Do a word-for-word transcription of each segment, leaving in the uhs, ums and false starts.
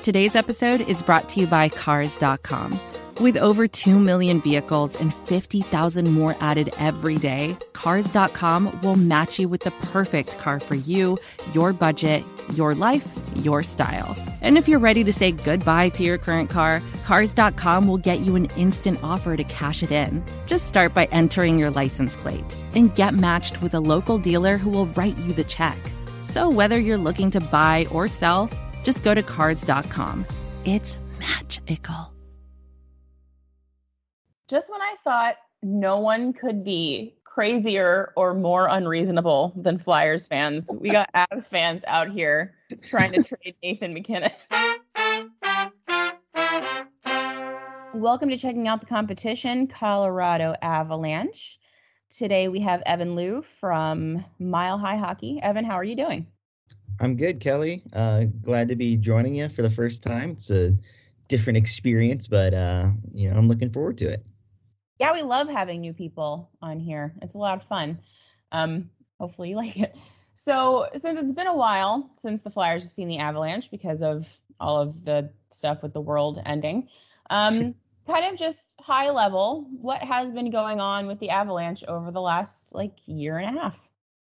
Today's episode is brought to you by Cars dot com. With over two million vehicles and fifty thousand more added every day, Cars dot com will match you with the perfect car for you, your budget, your life, your style. And if you're ready to say goodbye to your current car, Cars dot com will get you an instant offer to cash it in. Just start by entering your license plate and get matched with a local dealer who will write you the check. So whether you're looking to buy or sell, just go to Cars dot com. It's magical. Just when I thought no one could be crazier or more unreasonable than Flyers fans, we got Avs fans out here trying to trade Nathan MacKinnon. Welcome to Checking Out the Competition, Colorado Avalanche. Today we have Evan Liu from Mile High Hockey. Evan, how are you doing? I'm good, Kelly. Uh, glad to be joining you for the first time. It's a different experience, but uh, you know, I'm looking forward to it. Yeah, we love having new people on here. It's a lot of fun. Um, hopefully you like it. So since it's been a while since the Flyers have seen the Avalanche because of all of the stuff with the world ending, um, kind of just high level, what has been going on with the Avalanche over the last like year and a half?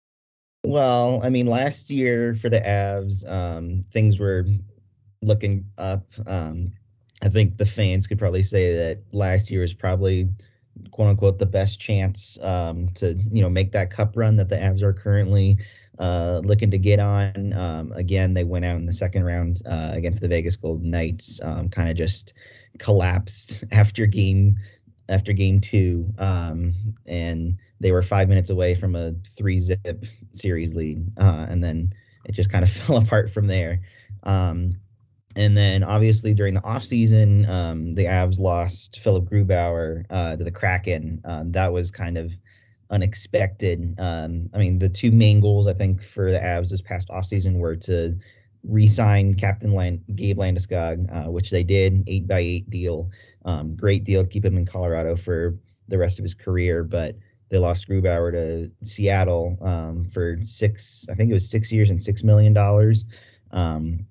Well, I mean, last year for the Avs, um, things were looking up. Um, I think the fans could probably say that last year was probably, quote unquote, the best chance um, to, you know, make that cup run that the Avs are currently uh, looking to get on. Um, again, they went out in the second round uh, against the Vegas Golden Knights, um, kind of just collapsed after game after game two. Um, and they were five minutes away from a three zip series lead. Uh, and then it just kind of fell apart from there. Um, And then, obviously, during the offseason, um, the Avs lost Philip Grubauer uh, to the Kraken. Um, that was kind of unexpected. Um, I mean, the two main goals, I think, for the Avs this past offseason were to re-sign Captain Land- Gabe Landeskog, uh, which they did, eight by eight deal. Um, great deal to keep him in Colorado for the rest of his career. But they lost Grubauer to Seattle um, for six, I think it was six years and six million dollars. Um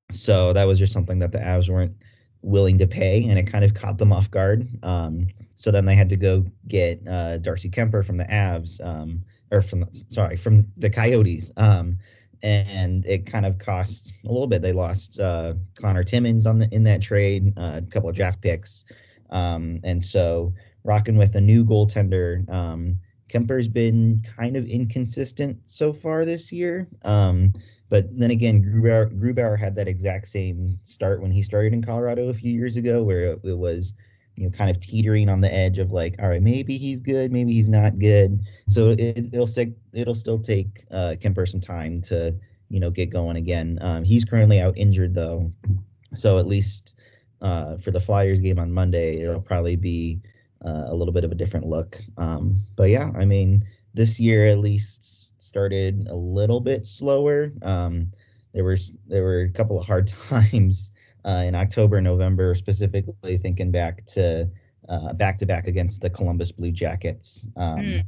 So that was just something that the Avs weren't willing to pay, and it kind of caught them off guard. Um, so then they had to go get uh, Darcy Kemper from the Avs, um, or from sorry from the Coyotes, um, and it kind of cost a little bit. They lost uh, Connor Timmins on the in that trade, uh, a couple of draft picks, um, and so rocking with a new goaltender. Um, Kemper's been kind of inconsistent so far this year. Um, But then again, Grubauer, Grubauer had that exact same start when he started in Colorado a few years ago, where it, it was, you know, kind of teetering on the edge of like, all right, maybe he's good, maybe he's not good. So it, it'll still it'll still take uh, Kemper some time to, you know, get going again. Um, he's currently out injured though, so at least uh, for the Flyers game on Monday, it'll probably be uh, a little bit of a different look. Um, but yeah, I mean, this year at least started a little bit slower. Um, there were there were a couple of hard times uh, in October, November, specifically thinking back to uh, back to back against the Columbus Blue Jackets, um, mm.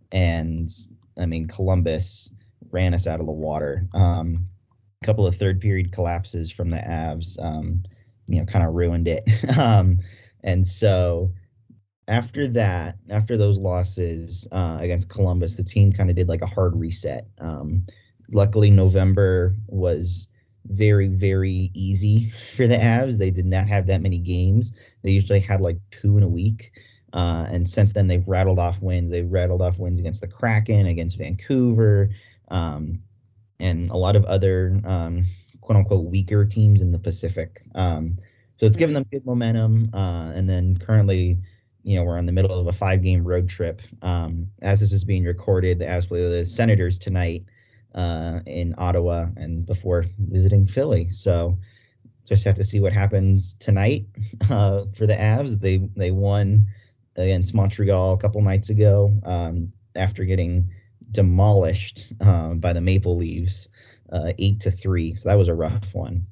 and I mean Columbus ran us out of the water. Um, a couple of third period collapses from the Avs, um, you know, kind of ruined it. um, and so. After that, after those losses uh, against Columbus, the team kind of did like a hard reset. Um, luckily, November was very, very easy for the Avs. They did not have that many games. They usually had like two in a week. Uh, and since then, they've rattled off wins. They've rattled off wins against the Kraken, against Vancouver, um, and a lot of other um, quote unquote weaker teams in the Pacific. Um, so it's given them good momentum. Uh, and then currently, you know, we're in the middle of a five-game road trip. Um, as this is being recorded, the Avs play the Senators tonight uh, in Ottawa and before visiting Philly. So just have to see what happens tonight uh, for the Avs. They they won against Montreal a couple nights ago um, after getting demolished uh, by the Maple Leafs uh, eight to three. So that was a rough one.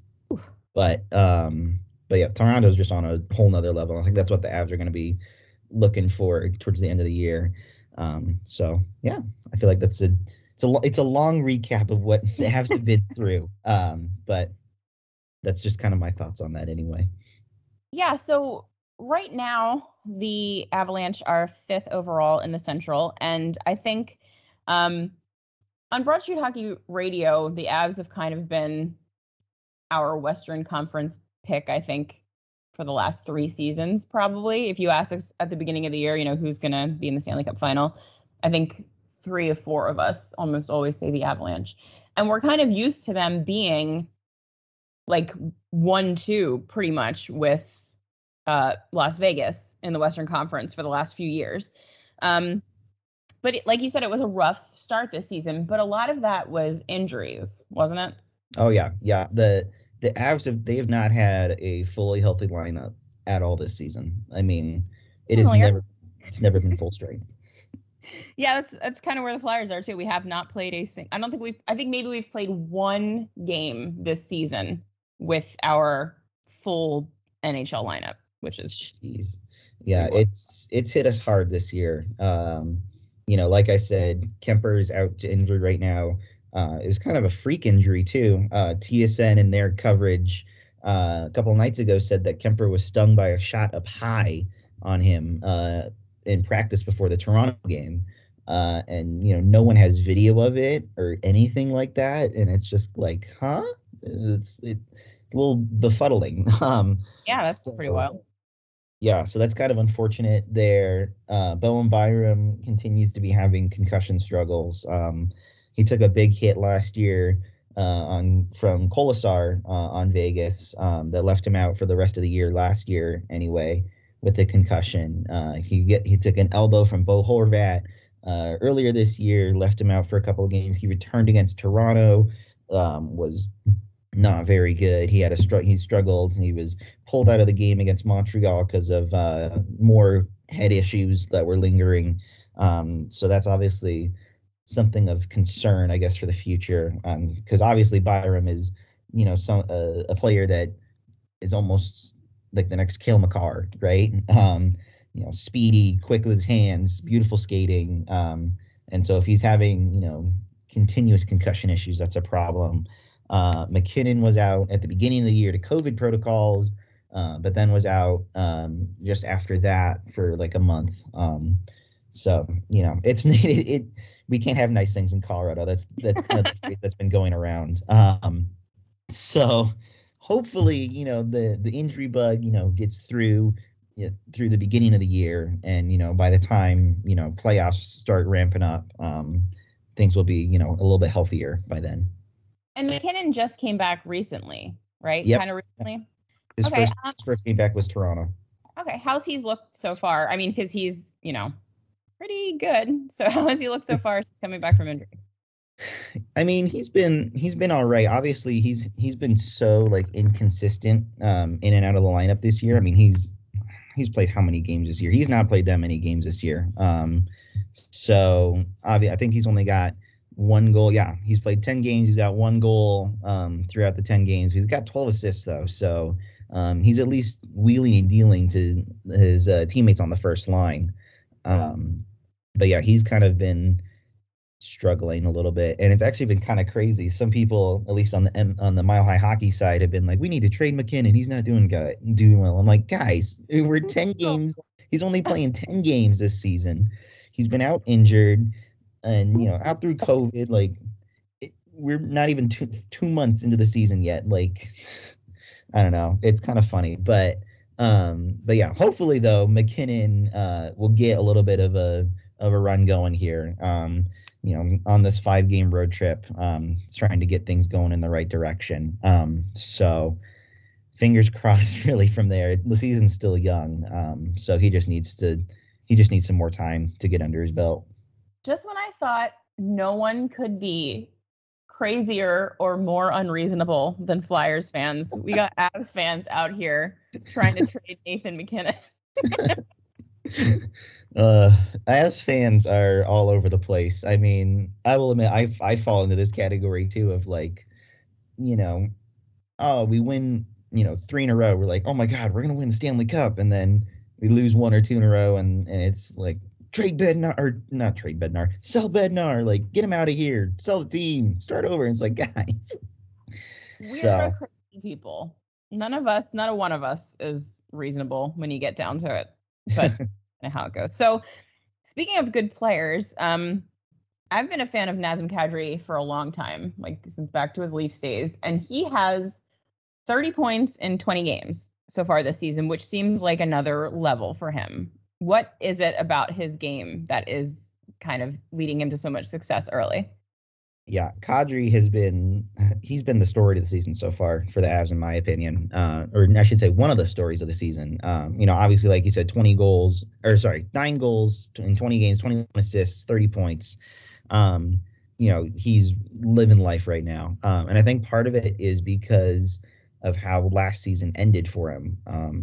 But um, but yeah, Toronto's just on a whole nother level. I think that's what the Avs are going to be looking for towards the end of the year. Um, so yeah, I feel like that's a it's a it's a long recap of what the Avs have been through. Um, but that's just kind of my thoughts on that anyway. Yeah, so right now the Avalanche are fifth overall in the Central, and I think um, on Broad Street Hockey Radio, the Avs have kind of been our Western Conference pick, I think, for the last three seasons, probably. If you ask us at the beginning of the year, you know, who's going to be in the Stanley Cup final, I think three of four of us almost always say the Avalanche. And we're kind of used to them being like one, two, pretty much with uh, Las Vegas in the Western Conference for the last few years. Um, but it, like you said, it was a rough start this season, but a lot of that was injuries, wasn't it? Oh yeah, yeah. The the Avs have they have not had a fully healthy lineup at all this season. I mean, it has never it's never been full strength. Yeah, that's that's kind of where the Flyers are too. We have not played a sing. I don't think we've. I think maybe we've played one game this season with our full N H L lineup, which is jeez. Yeah, it's it's hit us hard this year. Um, you know, like I said, Kemper is out to injury right now. Uh, it was kind of a freak injury too. Uh, T S N in their coverage uh, a couple of nights ago said that Kemper was stung by a shot up high on him uh, in practice before the Toronto game. Uh, and, you know, no one has video of it or anything like that. And it's just like, huh? It's, it's a little befuddling. Um, yeah, that's so, pretty wild. Yeah, so that's kind of unfortunate there. Uh, Bowen Byram continues to be having concussion struggles. Um, he took a big hit last year uh, on from Kolesar uh, on Vegas um, that left him out for the rest of the year last year anyway with a concussion. Uh, he get he took an elbow from Bo Horvat uh, earlier this year, left him out for a couple of games. He returned against Toronto, um, was not very good. He had a str- he struggled. He was pulled out of the game against Montreal because of uh, more head issues that were lingering. Um, so that's obviously something of concern, I guess, for the future. Because um, obviously Byram is, you know, some uh, a player that is almost like the next Cale Makar, right? Um, you know, speedy, quick with his hands, beautiful skating. Um, and so if he's having, you know, continuous concussion issues, that's a problem. Uh, McKinnon was out at the beginning of the year to COVID protocols, uh, but then was out um, just after that for like a month. Um, so, you know, it's it, it we can't have nice things in Colorado. That's that's kind of the that's been going around. Um, so hopefully, you know, the the injury bug, you know, gets through you know, through the beginning of the year, and you know, by the time you know playoffs start ramping up, um, things will be you know a little bit healthier by then. And McKinnon just came back recently, right? Yep. Kind of recently. His okay. first Um, his first game back was Toronto. Okay, how's he's looked so far? I mean, because he's you know pretty good. So how has he looked so far since coming back from injury? I mean, he's been he's been all right. Obviously, he's he's been so like inconsistent um, in and out of the lineup this year. I mean, he's he's played how many games this year? He's not played that many games this year. Um, so obvi- I think he's only got one goal. Yeah, he's played ten games. He's got one goal um, throughout the ten games. He's got twelve assists though. So um, he's at least wheeling and dealing to his uh, teammates on the first line. Um, but yeah, he's kind of been struggling a little bit, and it's actually been kind of crazy. Some people, at least on the on the Mile High Hockey side, have been like, "We need to trade McKinnon. He's not doing good, doing well." I'm like, guys, we're ten games. He's only playing ten games this season. He's been out injured, and you know, out through COVID. Like, it, we're not even two two months into the season yet. Like, I don't know. It's kind of funny, but um, but yeah. Hopefully, though, McKinnon uh will get a little bit of a of a run going here. Um. you know, on this five game road trip, um, trying to get things going in the right direction. Um, so fingers crossed really from there. The season's still young. Um, so he just needs to, he just needs some more time to get under his belt. Just when I thought no one could be crazier or more unreasonable than Flyers fans, we got Avs fans out here trying to trade Nathan McKinnon. Uh, Avs fans are all over the place. I mean, I will admit, I I fall into this category too of like, you know, oh, we win, you know, three in a row. We're like, oh my God, we're gonna win the Stanley Cup, and then we lose one or two in a row, and and it's like trade Bednar or not trade Bednar, sell Bednar, like get him out of here, sell the team, start over. And it's like, guys. We're so. a people. None of us, not a one of us is reasonable when you get down to it, but how it goes. So speaking of good players, um, I've been a fan of Nazem Kadri for a long time, like since back to his Leafs days, and he has thirty points in twenty games so far this season, which seems like another level for him. What is it about his game that is kind of leading him to so much success early? Yeah, Kadri has been, he's been the story of the season so far for the Avs, in my opinion. Uh, or I should say one of the stories of the season. Um, you know, obviously, like you said, twenty goals, or sorry, nine goals in twenty games, twenty-one assists, thirty points. Um, you know, he's living life right now. Um, and I think part of it is because of how last season ended for him. Um,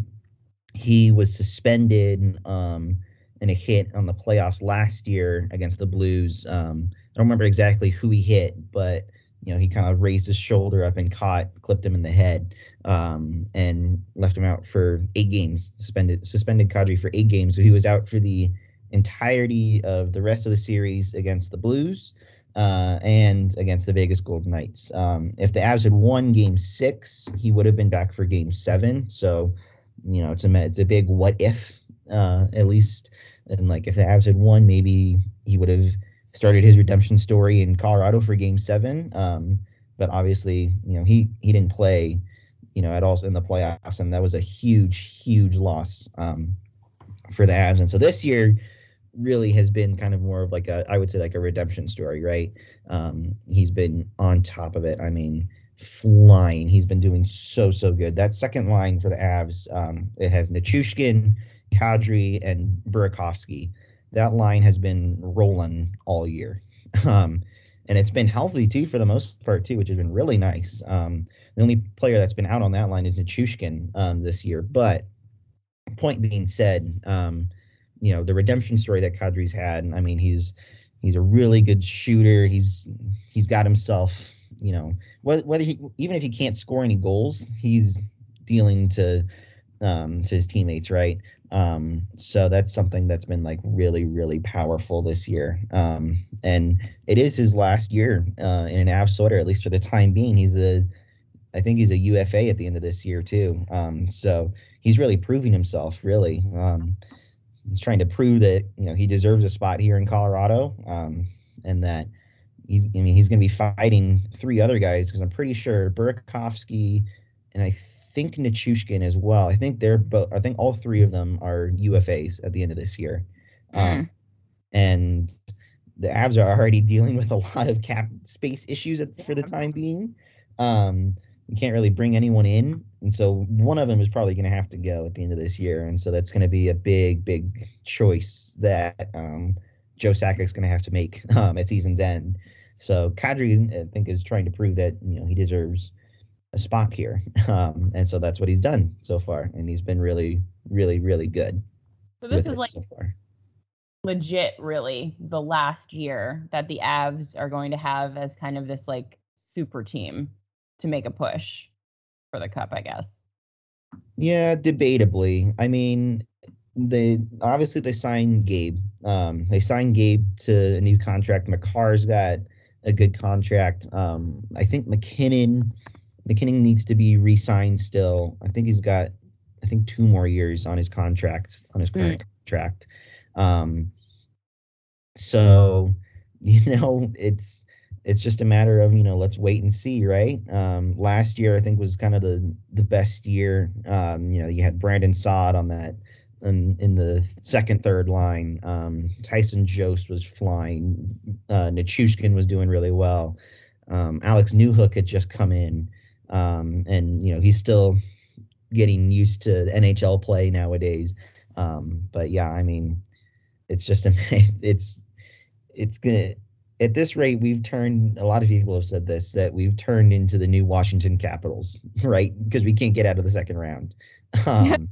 he was suspended um, in a hit on the playoffs last year against the Blues. Um, I don't remember exactly who he hit, but you know, he kind of raised his shoulder up and caught, clipped him in the head, um, and left him out for eight games. Suspended suspended Kadri for eight games, so he was out for the entirety of the rest of the series against the Blues uh, and against the Vegas Golden Knights. Um, if the Avs had won Game Six, he would have been back for Game Seven. So, you know, it's a it's a big what if, uh, at least. And like if the Avs had won, maybe he would have started his redemption story in Colorado for Game Seven. Um, but obviously, you know, he he didn't play, you know, at all in the playoffs, and that was a huge, huge loss um, for the Avs. And so this year really has been kind of more of like a, I would say like a redemption story, right? Um, he's been on top of it. I mean, flying. He's been doing so, so good. That second line for the Avs, um, it has Nichushkin, Kadri, and Burakovsky. That line has been rolling all year. Um, and it's been healthy, too, for the most part, too, which has been really nice. Um, the only player that's been out on that line is Nichushkin um, this year. But point being said, um, you know, the redemption story that Kadri's had, I mean, he's he's a really good shooter. He's he's got himself, you know, whether, whether he, even if he can't score any goals, he's dealing to um, to his teammates, right? Um, so that's something that's been like really, really powerful this year. Um, and it is his last year uh, in an Avs sweater, at least for the time being. He's a, I think he's a U F A at the end of this year too. Um, so he's really proving himself, really. Um, he's trying to prove that, you know, he deserves a spot here in Colorado, um, and that he's, I mean, he's going to be fighting three other guys, because I'm pretty sure Burakovsky and I think Nichushkin as well. I think they're both. I think all three of them are U F As at the end of this year, mm. um, and the Avs are already dealing with a lot of cap space issues at, for the time being. Um, you can't really bring anyone in, and so one of them is probably going to have to go at the end of this year, and so that's going to be a big, big choice that um, Joe Sakic's going to have to make um, at season's end. So Kadri, I think, is trying to prove that, you know, he deserves a spot here, um, and so that's what he's done so far, and he's been really, really, really good. So this is like so far. Legit, really, the last year that the Avs are going to have as kind of this like super team to make a push for the cup, I guess. Yeah, debatably. I mean, they obviously they signed Gabe. Um, they signed Gabe to a new contract. Makar's got a good contract. Um, I think McKinnon. McKinnon needs to be re-signed still. I think he's got, I think, two more years on his contract, on his current mm. contract. Um, so, you know, it's it's just a matter of, you know, let's wait and see, right? Um, last year, I think, was kind of the the best year. Um, you know, you had Brandon Saad on that, in, in the second, third line. Um, Tyson Jost was flying. Uh, Nichushkin was doing really well. Um, Alex Newhook had just come in. Um, and, you know, he's still getting used to N H L play nowadays. Um, but yeah, I mean, it's just, a, it's, it's gonna, at this rate, we've turned, a lot of people have said this, that we've turned into the new Washington Capitals, right? Because we can't get out of the second round. Um,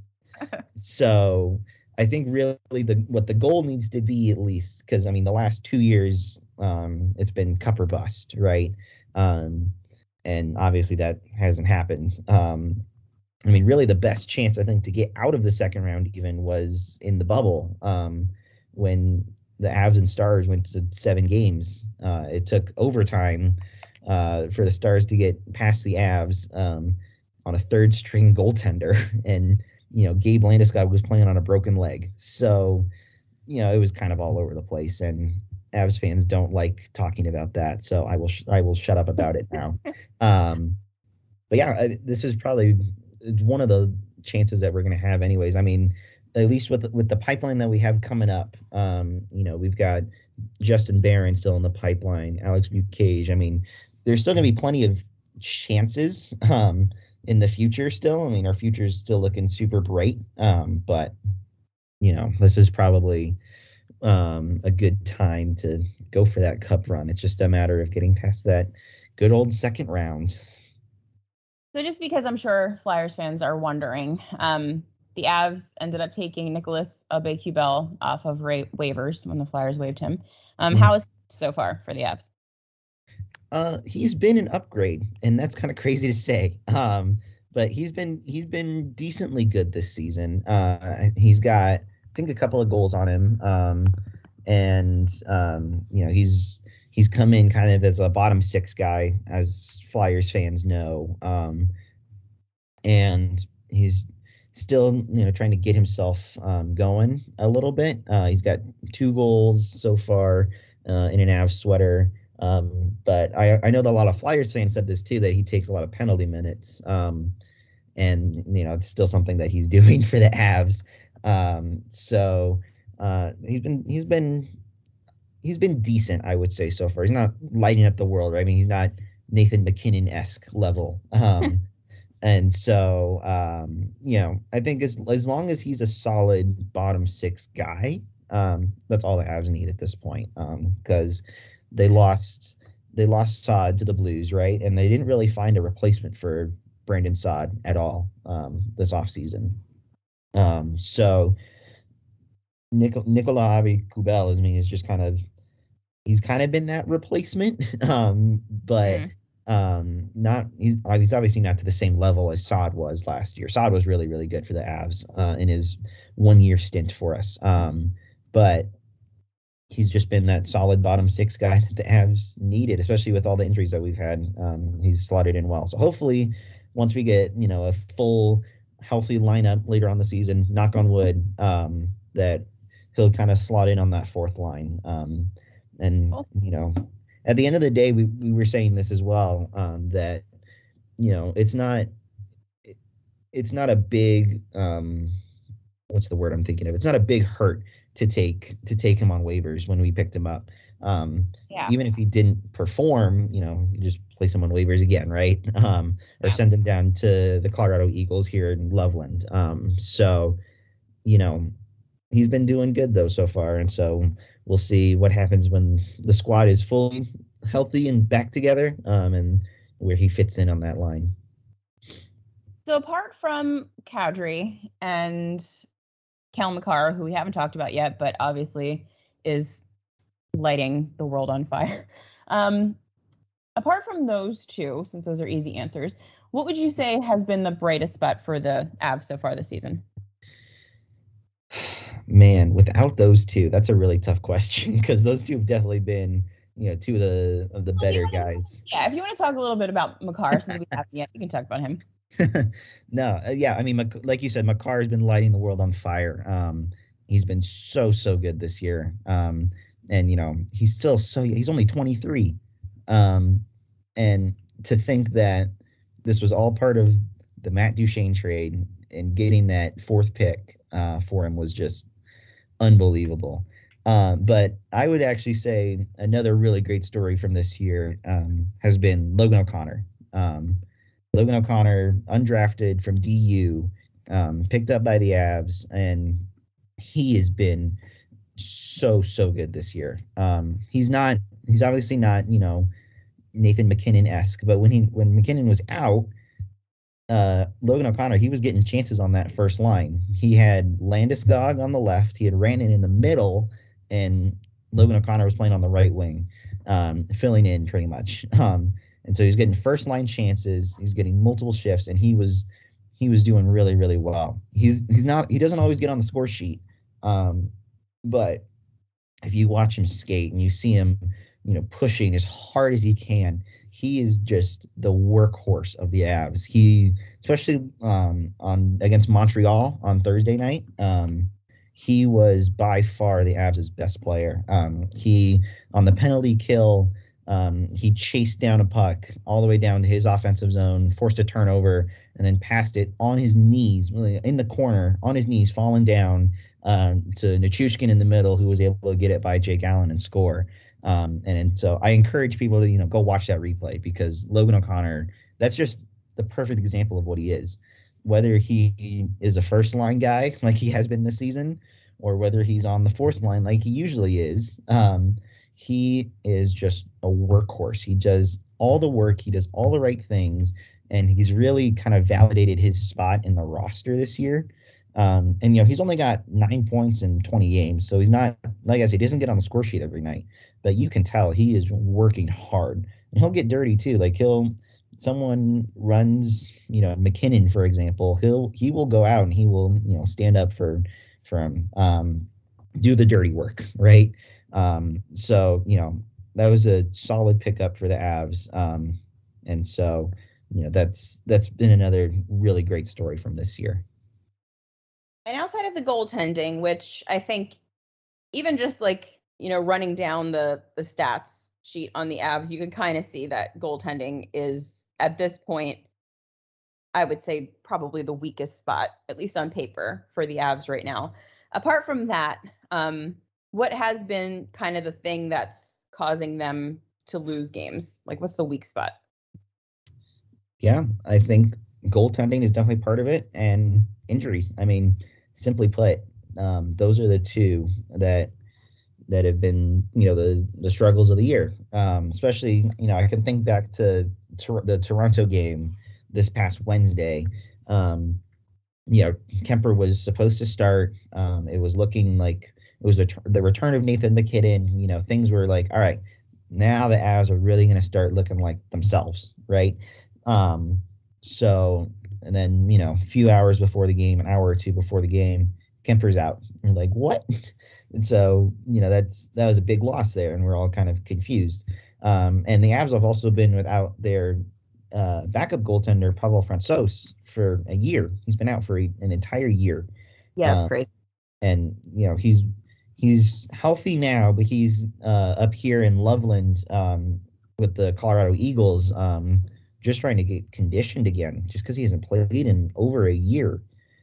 so I think really the, what the goal needs to be, at least, because I mean, the last two years, um, it's been cup or bust, right? Um, And obviously that hasn't happened. Um, I mean, really the best chance, I think, to get out of the second round even was in the bubble, um, when the Avs and Stars went to seven games. Uh, it took overtime uh, for the Stars to get past the Avs. Um, on a third string goaltender, and you know Gabe Landeskog was playing on a broken leg. So you know it was kind of all over the place, and Avs fans don't like talking about that. So I will sh- I will shut up about it now. Um, but yeah, I, this is probably one of the chances that we're going to have, anyways. I mean, at least with with the pipeline that we have coming up, um, you know, we've got Justin Barron still in the pipeline, Alex Bucage. I mean, there's still going to be plenty of chances um, in the future still. I mean, our future is still looking super bright. Um, but, you know, this is probably um, a good time to go for that cup run. It's just a matter of getting past that good old second round. So just because I'm sure Flyers fans are wondering, um, the Avs ended up taking Nicholas Aube-Kubel off of ra- waivers when the Flyers waived him. Um, mm-hmm. How is so far for the Avs? Uh, he's been an upgrade, and that's kind of crazy to say. Um, but he's been he's been decently good this season. Uh, he's got, I think, a couple of goals on him, um, and um, you know he's he's come in kind of as a bottom six guy, as Flyers fans know, um, and he's still, you know, trying to get himself um, going a little bit. Uh, he's got two goals so far uh, in an Avs sweater. Um, but I, I know that a lot of Flyers fans said this too, that he takes a lot of penalty minutes. Um, and, you know, it's still something that he's doing for the Avs. Um, so uh, he's been he's been he's been decent, I would say, so far. He's not lighting up the world, right? I mean, he's not Nathan McKinnon-esque level. Um And so, um, you know, I think as as long as he's a solid bottom six guy, um, that's all the Avs need at this point. Because um, they lost they lost Saad to the Blues, right? And they didn't really find a replacement for Brandon Saad at all um, this offseason. Um, so Nik- Nicolas Aube-Kubel, I mean, is just kind of he's kind of been that replacement, um, but. Mm. Um, not he's, he's obviously not to the same level as Saad was last year. Saad was really, really good for the Avs uh, in his one year stint for us. Um, but he's just been that solid bottom six guy that the Avs needed, especially with all the injuries that we've had. Um, he's slotted in well. So hopefully, once we get you know a full healthy lineup later on the season, knock on wood, um, that he'll kind of slot in on that fourth line. Um, and you know. At the end of the day, we, we were saying this as well, um, that, you know, it's not it, it's not a big um, what's the word I'm thinking of? It's not a big hurt to take to take him on waivers when we picked him up. Um, yeah. Even if he didn't perform, you know, you just place him on waivers again, right? Um, or yeah. send him down to the Colorado Eagles here in Loveland. Um, so, you know, he's been doing good though so far, and so we'll see what happens when the squad is fully healthy and back together, um, and where he fits in on that line. So apart from Kadri and Cale Makar, who we haven't talked about yet, but obviously is lighting the world on fire. Um, apart from those two, since those are easy answers, what would you say has been the brightest spot for the Avs so far this season? Man, without those two, that's a really tough question, because those two have definitely been, you know, two of the of the well, better wanna, guys. Yeah, if you want to talk a little bit about Makar, since we haven't yet, you can talk about him. no, uh, yeah, I mean, like you said, Makar has been lighting the world on fire. Um, he's been so so good this year, um, and you know, he's still so he's only twenty-three, um, and to think that this was all part of the Matt Duchene trade and getting that fourth pick uh, for him was just unbelievable. Um, but I would actually say another really great story from this year um, has been Logan O'Connor. Um, Logan O'Connor, undrafted from D U, um, picked up by the Avs, and he has been so, so good this year. Um, he's not, he's obviously not, you know, Nathan McKinnon-esque, but when he, when McKinnon was out, uh, Logan O'Connor, he was getting chances on that first line. He had Landeskog on the left, he had Rantanen in the middle, and Logan O'Connor was playing on the right wing, um, filling in pretty much. Um, and so he's getting first line chances, he's getting multiple shifts, and he was he was doing really, really well. He's he's not he doesn't always get on the score sheet. Um, but if you watch him skate and you see him, you know, pushing as hard as he can, he is just the workhorse of the Avs. He, especially um, on against Montreal on Thursday night, um, he was by far the Avs' best player. Um, he, on the penalty kill, um, he chased down a puck all the way down to his offensive zone, forced a turnover, and then passed it on his knees, really in the corner, on his knees, falling down um, to Nichushkin in the middle, who was able to get it by Jake Allen and score. Um, and, and so I encourage people to, you know, go watch that replay, because Logan O'Connor, that's just the perfect example of what he is. Whether he is a first line guy like he has been this season, or whether he's on the fourth line like he usually is, um, he is just a workhorse. He does all the work. He does all the right things. And he's really kind of validated his spot in the roster this year. Um, and, you know, he's only got nine points in twenty games. So he's not, like I said, he doesn't get on the score sheet every night. But you can tell he is working hard. And he'll get dirty, too. Like, he'll, someone runs, you know, McKinnon, for example, he'll, he will go out and he will, you know, stand up for, for him, um, do the dirty work, right? Um, so, you know, that was a solid pickup for the Avs. Um, and so, you know, that's that's been another really great story from this year. And outside of the goaltending, which I think even just like, you know, running down the, the stats sheet on the Avs, you can kind of see that goaltending is at this point, I would say probably the weakest spot, at least on paper, for the Avs right now. Apart from that, um, what has been kind of the thing that's causing them to lose games? Like, what's the weak spot? Yeah, I think goaltending is definitely part of it, and injuries. I mean, simply put, um, those are the two that that have been, you know, the the struggles of the year. Um, especially, you know, I can think back to, to the Toronto game this past Wednesday. Um, you know, Kemper was supposed to start. Um, it was looking like it was the, the return of Nathan McKinnon. You know, things were like, all right, now the Avs are really going to start looking like themselves, right? Um, so, and then, you know, a few hours before the game, an hour or two before the game, Kemper's out. We're like, what? And so, you know, that's, that was a big loss there, and we're all kind of confused. Um, and the Avs have also been without their uh, backup goaltender, Pavel Francouz, for a year. He's been out for a, an entire year. Yeah, that's um, crazy. And, you know, he's, he's healthy now, but he's uh, up here in Loveland um, with the Colorado Eagles, um, just trying to get conditioned again, just because he hasn't played in over a year.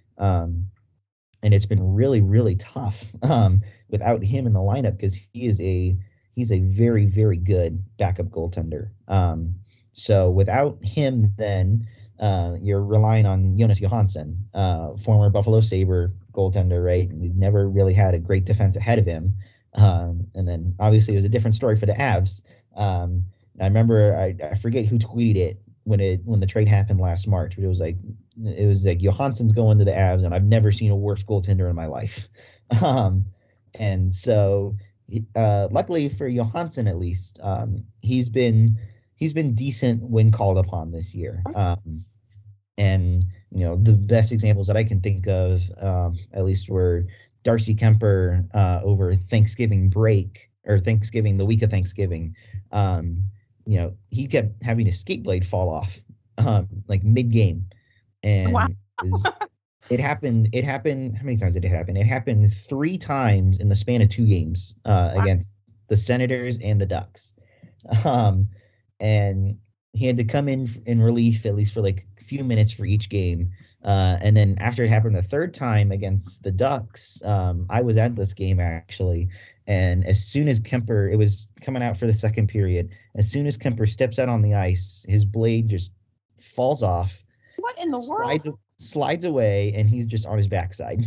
Um, and it's been really, really tough um, without him in the lineup, because he is a he's a very, very good backup goaltender. Um, so without him, then uh, you're relying on Jonas Johansson, uh, former Buffalo Sabre goaltender, right? He's never really had a great defense ahead of him. Um, and then obviously it was a different story for the Avs. Um, I remember, I, I forget who tweeted it when it when the trade happened last March, but it was like it was like Johansson's going to the Avs, and I've never seen a worse goaltender in my life. Um, and so, uh, luckily for Johansson, at least, um, he's been he's been decent when called upon this year. Um, and you know, the best examples that I can think of, um, at least, were Darcy Kemper uh, over Thanksgiving break or Thanksgiving, the week of Thanksgiving. Um, you know, he kept having his skate blade fall off, um, like mid game, and Wow. it, was, it happened. It happened. How many times did it happen? It happened three times in the span of two games uh, Wow. against the Senators and the Ducks, um, and he had to come in in relief at least for like a few minutes for each game. Uh, and then after it happened the third time against the Ducks, um, I was at this game actually. And as soon as Kemper, it was coming out for the second period, as soon as Kemper steps out on the ice, his blade just falls off. What in the slides, world? Slides away, and he's just on his backside.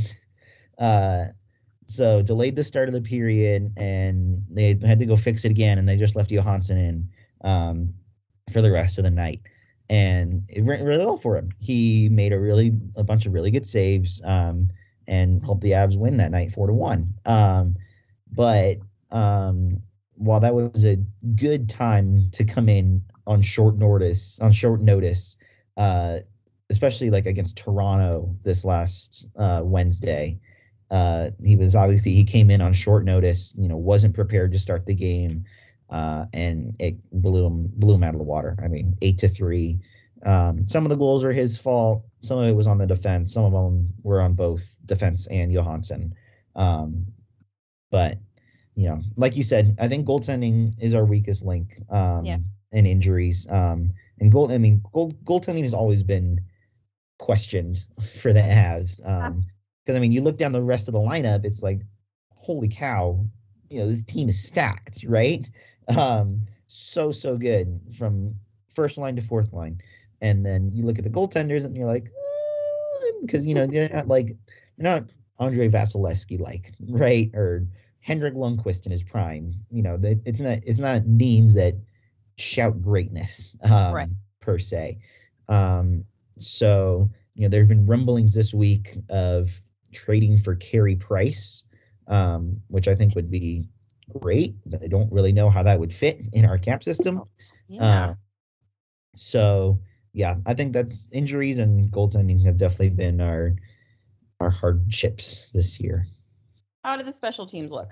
Uh, so delayed the start of the period, and they had to go fix it again, and they just left Johansson in um, for the rest of the night. And it went really well for him. He made a really a bunch of really good saves um, and helped the Avs win that night four to one. Um, But um, while that was a good time to come in on short notice, on short notice, uh, especially like against Toronto this last uh, Wednesday, uh, he was obviously he came in on short notice. You know, wasn't prepared to start the game. uh, and it blew him blew him out of the water. I mean, eight to three. Um, some of the goals were his fault. Some of it was on the defense. Some of them were on both defense and Johansson. Um, but you know, like you said, I think goaltending is our weakest link. Um, Yeah. And injuries. Um, and goal. I mean, goal goaltending has always been questioned for the Avs. Um, because I mean, you look down the rest of the lineup, it's like, holy cow, you know, this team is stacked, right? Um, so so good from first line to fourth line, and then you look at the goaltenders, and you're like, because you know they're not like they're not Andre Vasilevsky like, right? Or Henrik Lundqvist in his prime. You know, they, it's not it's not names that shout greatness um, Right. per se. Um, so you know, there have been rumblings this week of trading for Carey Price, um, which I think would be great. I don't really know how that would fit in our cap system. Yeah. Uh, so yeah, I think that's injuries and goaltending have definitely been our our hardships this year. How do the special teams look?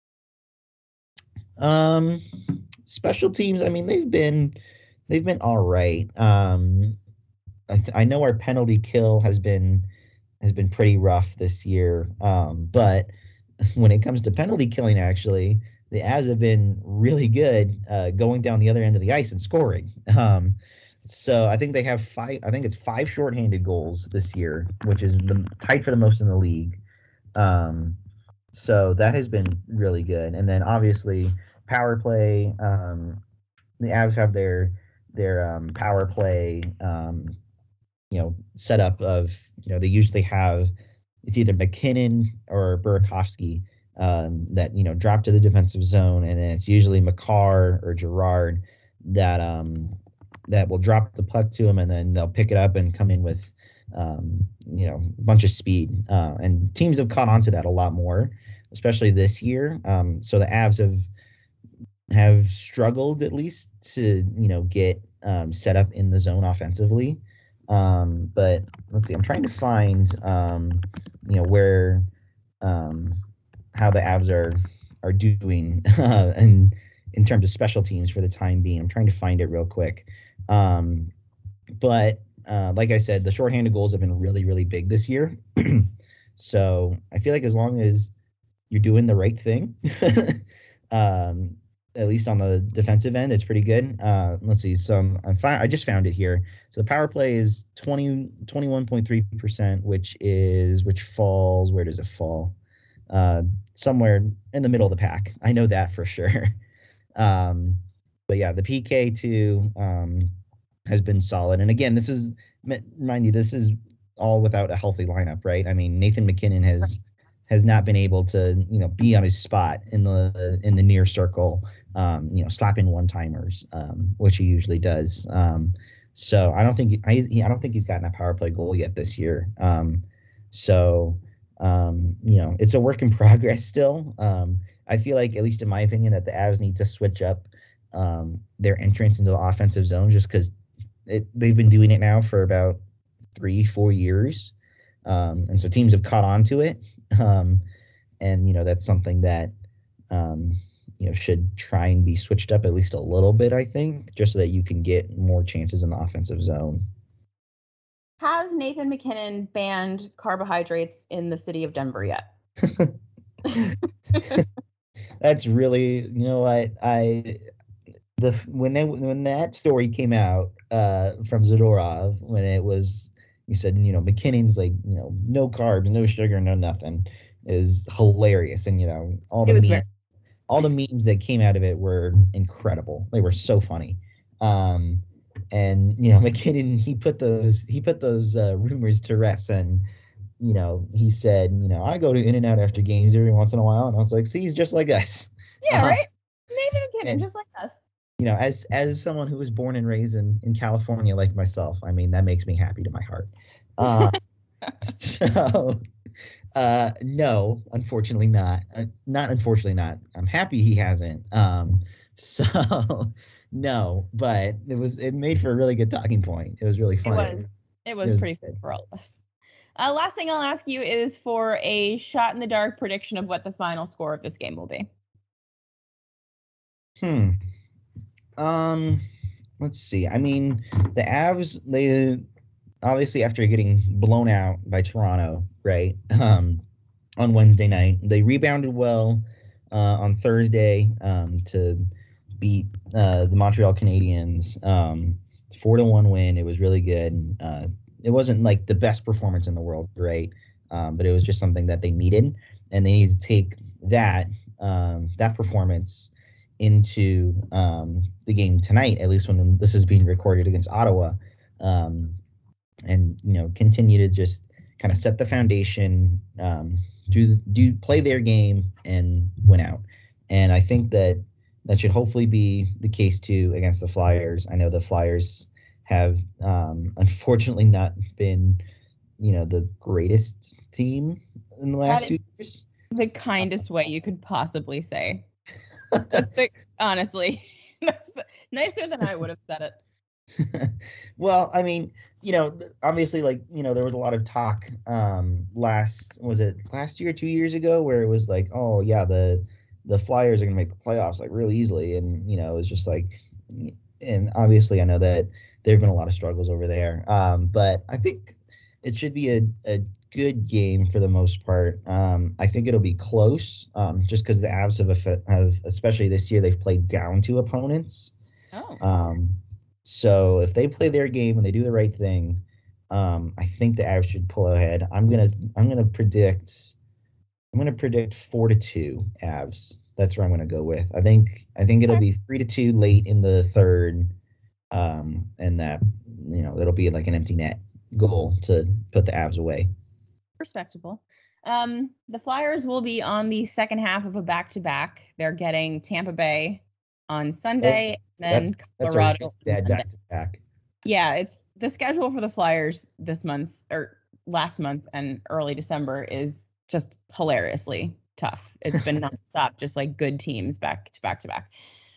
Um, special teams, I mean, they've been they've been all right. Um, I, th- I know our penalty kill has been has been pretty rough this year. Um, but when it comes to penalty killing, actually, the Avs have been really good uh, going down the other end of the ice and scoring. Um, so I think they have five. I think it's five shorthanded goals this year, which is the tied for the most in the league. Um, so that has been really good. And then obviously power play. Um, the Avs have their their um, power play. Um, you know, setup of, you know, they usually have, it's either McKinnon or Burakovsky um, that, you know, drop to the defensive zone. And then it's usually Makar or Gerard that, um, that will drop the puck to him, and then they'll pick it up and come in with, um, you know, a bunch of speed. Uh, and teams have caught on to that a lot more, especially this year. Um, so the Avs have, have struggled at least to, you know, get um, set up in the zone offensively. Um, but let's see, I'm trying to find, um, you know, where, um, how the Avs are, are doing, uh, and in terms of special teams for the time being. I'm trying to find it real quick. Um, but, uh, like I said, the shorthanded goals have been really, really big this year. So I feel like as long as you're doing the right thing, um, at least on the defensive end, it's pretty good. Uh, let's see. Some I'm fi- I just found it here. So the power play is twenty, twenty-one point three percent, which is which falls. Where does it fall? Uh, somewhere in the middle of the pack. I know that for sure. Um, but yeah, the P K too um, has been solid. And again, this is mind you, this is all without a healthy lineup, right? I mean, Nathan McKinnon has has not been able to, you know, be on his spot in the in the near circle, um, you know, slapping one timers, um, which he usually does. Um, so I don't think I I don't think he's gotten a power play goal yet this year. Um, so um, you know, it's a work in progress still. Um, I feel like, at least in my opinion, that the Avs need to switch up um, their entrance into the offensive zone, just because they've been doing it now for about three, four years. Um, and so teams have caught on to it. Um, and, you know, that's something that, um, you know, should try and be switched up at least a little bit, I think, just so that you can get more chances in the offensive zone. Has Nathan McKinnon banned carbohydrates in the city of Denver yet? That's really, you know what, I the when they when that story came out uh, from Zadorov, when it was, he said, you know, McKinnon's like, you know, no carbs, no sugar, no nothing, is hilarious. And you know, all the memes, very- all the memes that came out of it were incredible. They were so funny. Um, and you know, McKinnon, he put those he put those uh, rumors to rest, and you know, he said, you know, I go to In-N-Out after games every once in a while, and I was like, see, he's just like us. Yeah, uh, right. Nathan McKinnon, and, just like us. You know, as as someone who was born and raised in, in California like myself, I mean, that makes me happy to my heart. Uh, so, uh, no, unfortunately not. Uh, not unfortunately not. I'm happy he hasn't. Um, so, no, but it was it made for a really good talking point. It was really fun. It was. It was, it was pretty fun for all of us. Uh, last thing I'll ask you is for a shot in the dark prediction of what the final score of this game will be. Hmm. Um, let's see. I mean, the Avs, they obviously after getting blown out by Toronto, right? Um, on Wednesday night, they rebounded well uh, on Thursday um, to beat uh, the Montreal Canadiens. Um, four to one win. It was really good. Uh, it wasn't like the best performance in the world, right? Um, but it was just something that they needed, and they need to take that um, that performance into um, the game tonight. At least when this is being recorded against Ottawa, um, and you know continue to just kind of set the foundation, um, do do play their game and win out. And I think that that should hopefully be the case too against the Flyers. I know the Flyers have um, unfortunately not been, you know, the greatest team in the last two years. The kindest way you could possibly say. That's the, honestly, that's the, nicer than I would have said it. Well, I mean, you know, obviously, like, you know, there was a lot of talk um, last, was it last year, two years ago, where it was like, oh, yeah, the the Flyers are going to make the playoffs like really easily. And, you know, it was just like, and obviously I know that there have been a lot of struggles over there. Um, but I think it should be a, a good game for the most part. Um, I think it'll be close um, just because the Avs have, have, especially this year, they've played down to opponents. Oh. Um, so if they play their game and they do the right thing, um, I think the Avs should pull ahead. I'm gonna I'm gonna predict I'm gonna predict four to two Avs. That's where I'm gonna go with. I think I think it'll be three to two late in the third, um, and that you know it'll be like an empty net goal to put the Avs away. Respectable. Um, the Flyers will be on the second half of a back-to-back. They're getting Tampa Bay on Sunday, oh, and then that's, Colorado. That's a bad back-to-back. Yeah, it's the schedule for the Flyers this month or last month and early December is just hilariously tough. It's been nonstop, just like good teams back to back to back.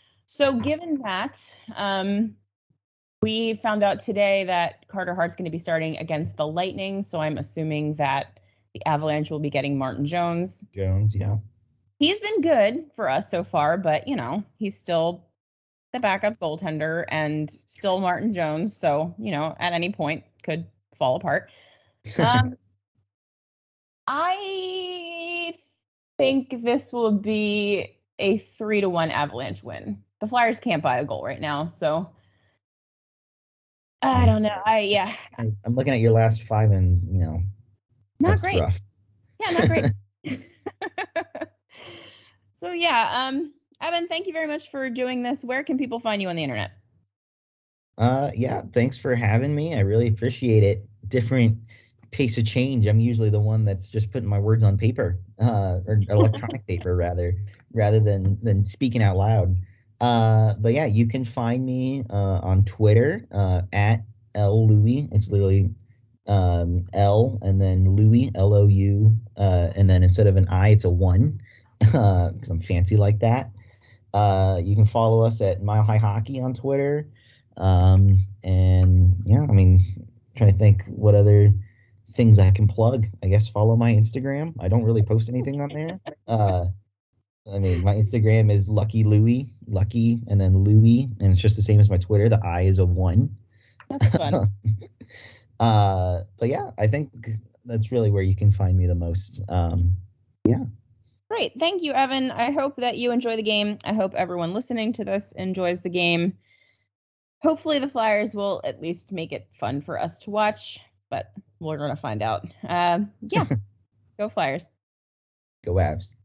So given that, um, we found out today that Carter Hart's going to be starting against the Lightning. So I'm assuming that the Avalanche will be getting Martin Jones. Jones, yeah. He's been good for us so far, but, you know, he's still the backup goaltender and still Martin Jones. So, you know, at any point could fall apart. Um, I think this will be a three to one Avalanche win. The Flyers can't buy a goal right now, so I don't know. I yeah. I, I'm looking at your last five, and you know, not that's great. Rough. Yeah, not great. So yeah, um, Evan, thank you very much for doing this. Where can people find you on the internet? Uh, yeah, thanks for having me. I really appreciate it. Different pace of change. I'm usually the one that's just putting my words on paper, uh, or electronic paper rather, rather than than speaking out loud. Uh, but yeah, you can find me uh, on Twitter uh, at L Louie. It's literally um, L and then Louie, L O U, uh, and then instead of an I, it's a one, because I'm fancy like that. Uh, you can follow us at Mile High Hockey on Twitter. Um, and yeah, I mean, I'm trying to think what other things I can plug. I guess follow my Instagram. I don't really post anything on there. Uh, I mean, my Instagram is Lucky Louie, Lucky, and then Louie, and it's just the same as my Twitter. The I is a one. That's fun. uh, but yeah, I think that's really where you can find me the most. Um, yeah. Great. Thank you, Evan. I hope that you enjoy the game. I hope everyone listening to this enjoys the game. Hopefully the Flyers will at least make it fun for us to watch, but we're going to find out. Uh, yeah. Go Flyers. Go Avs.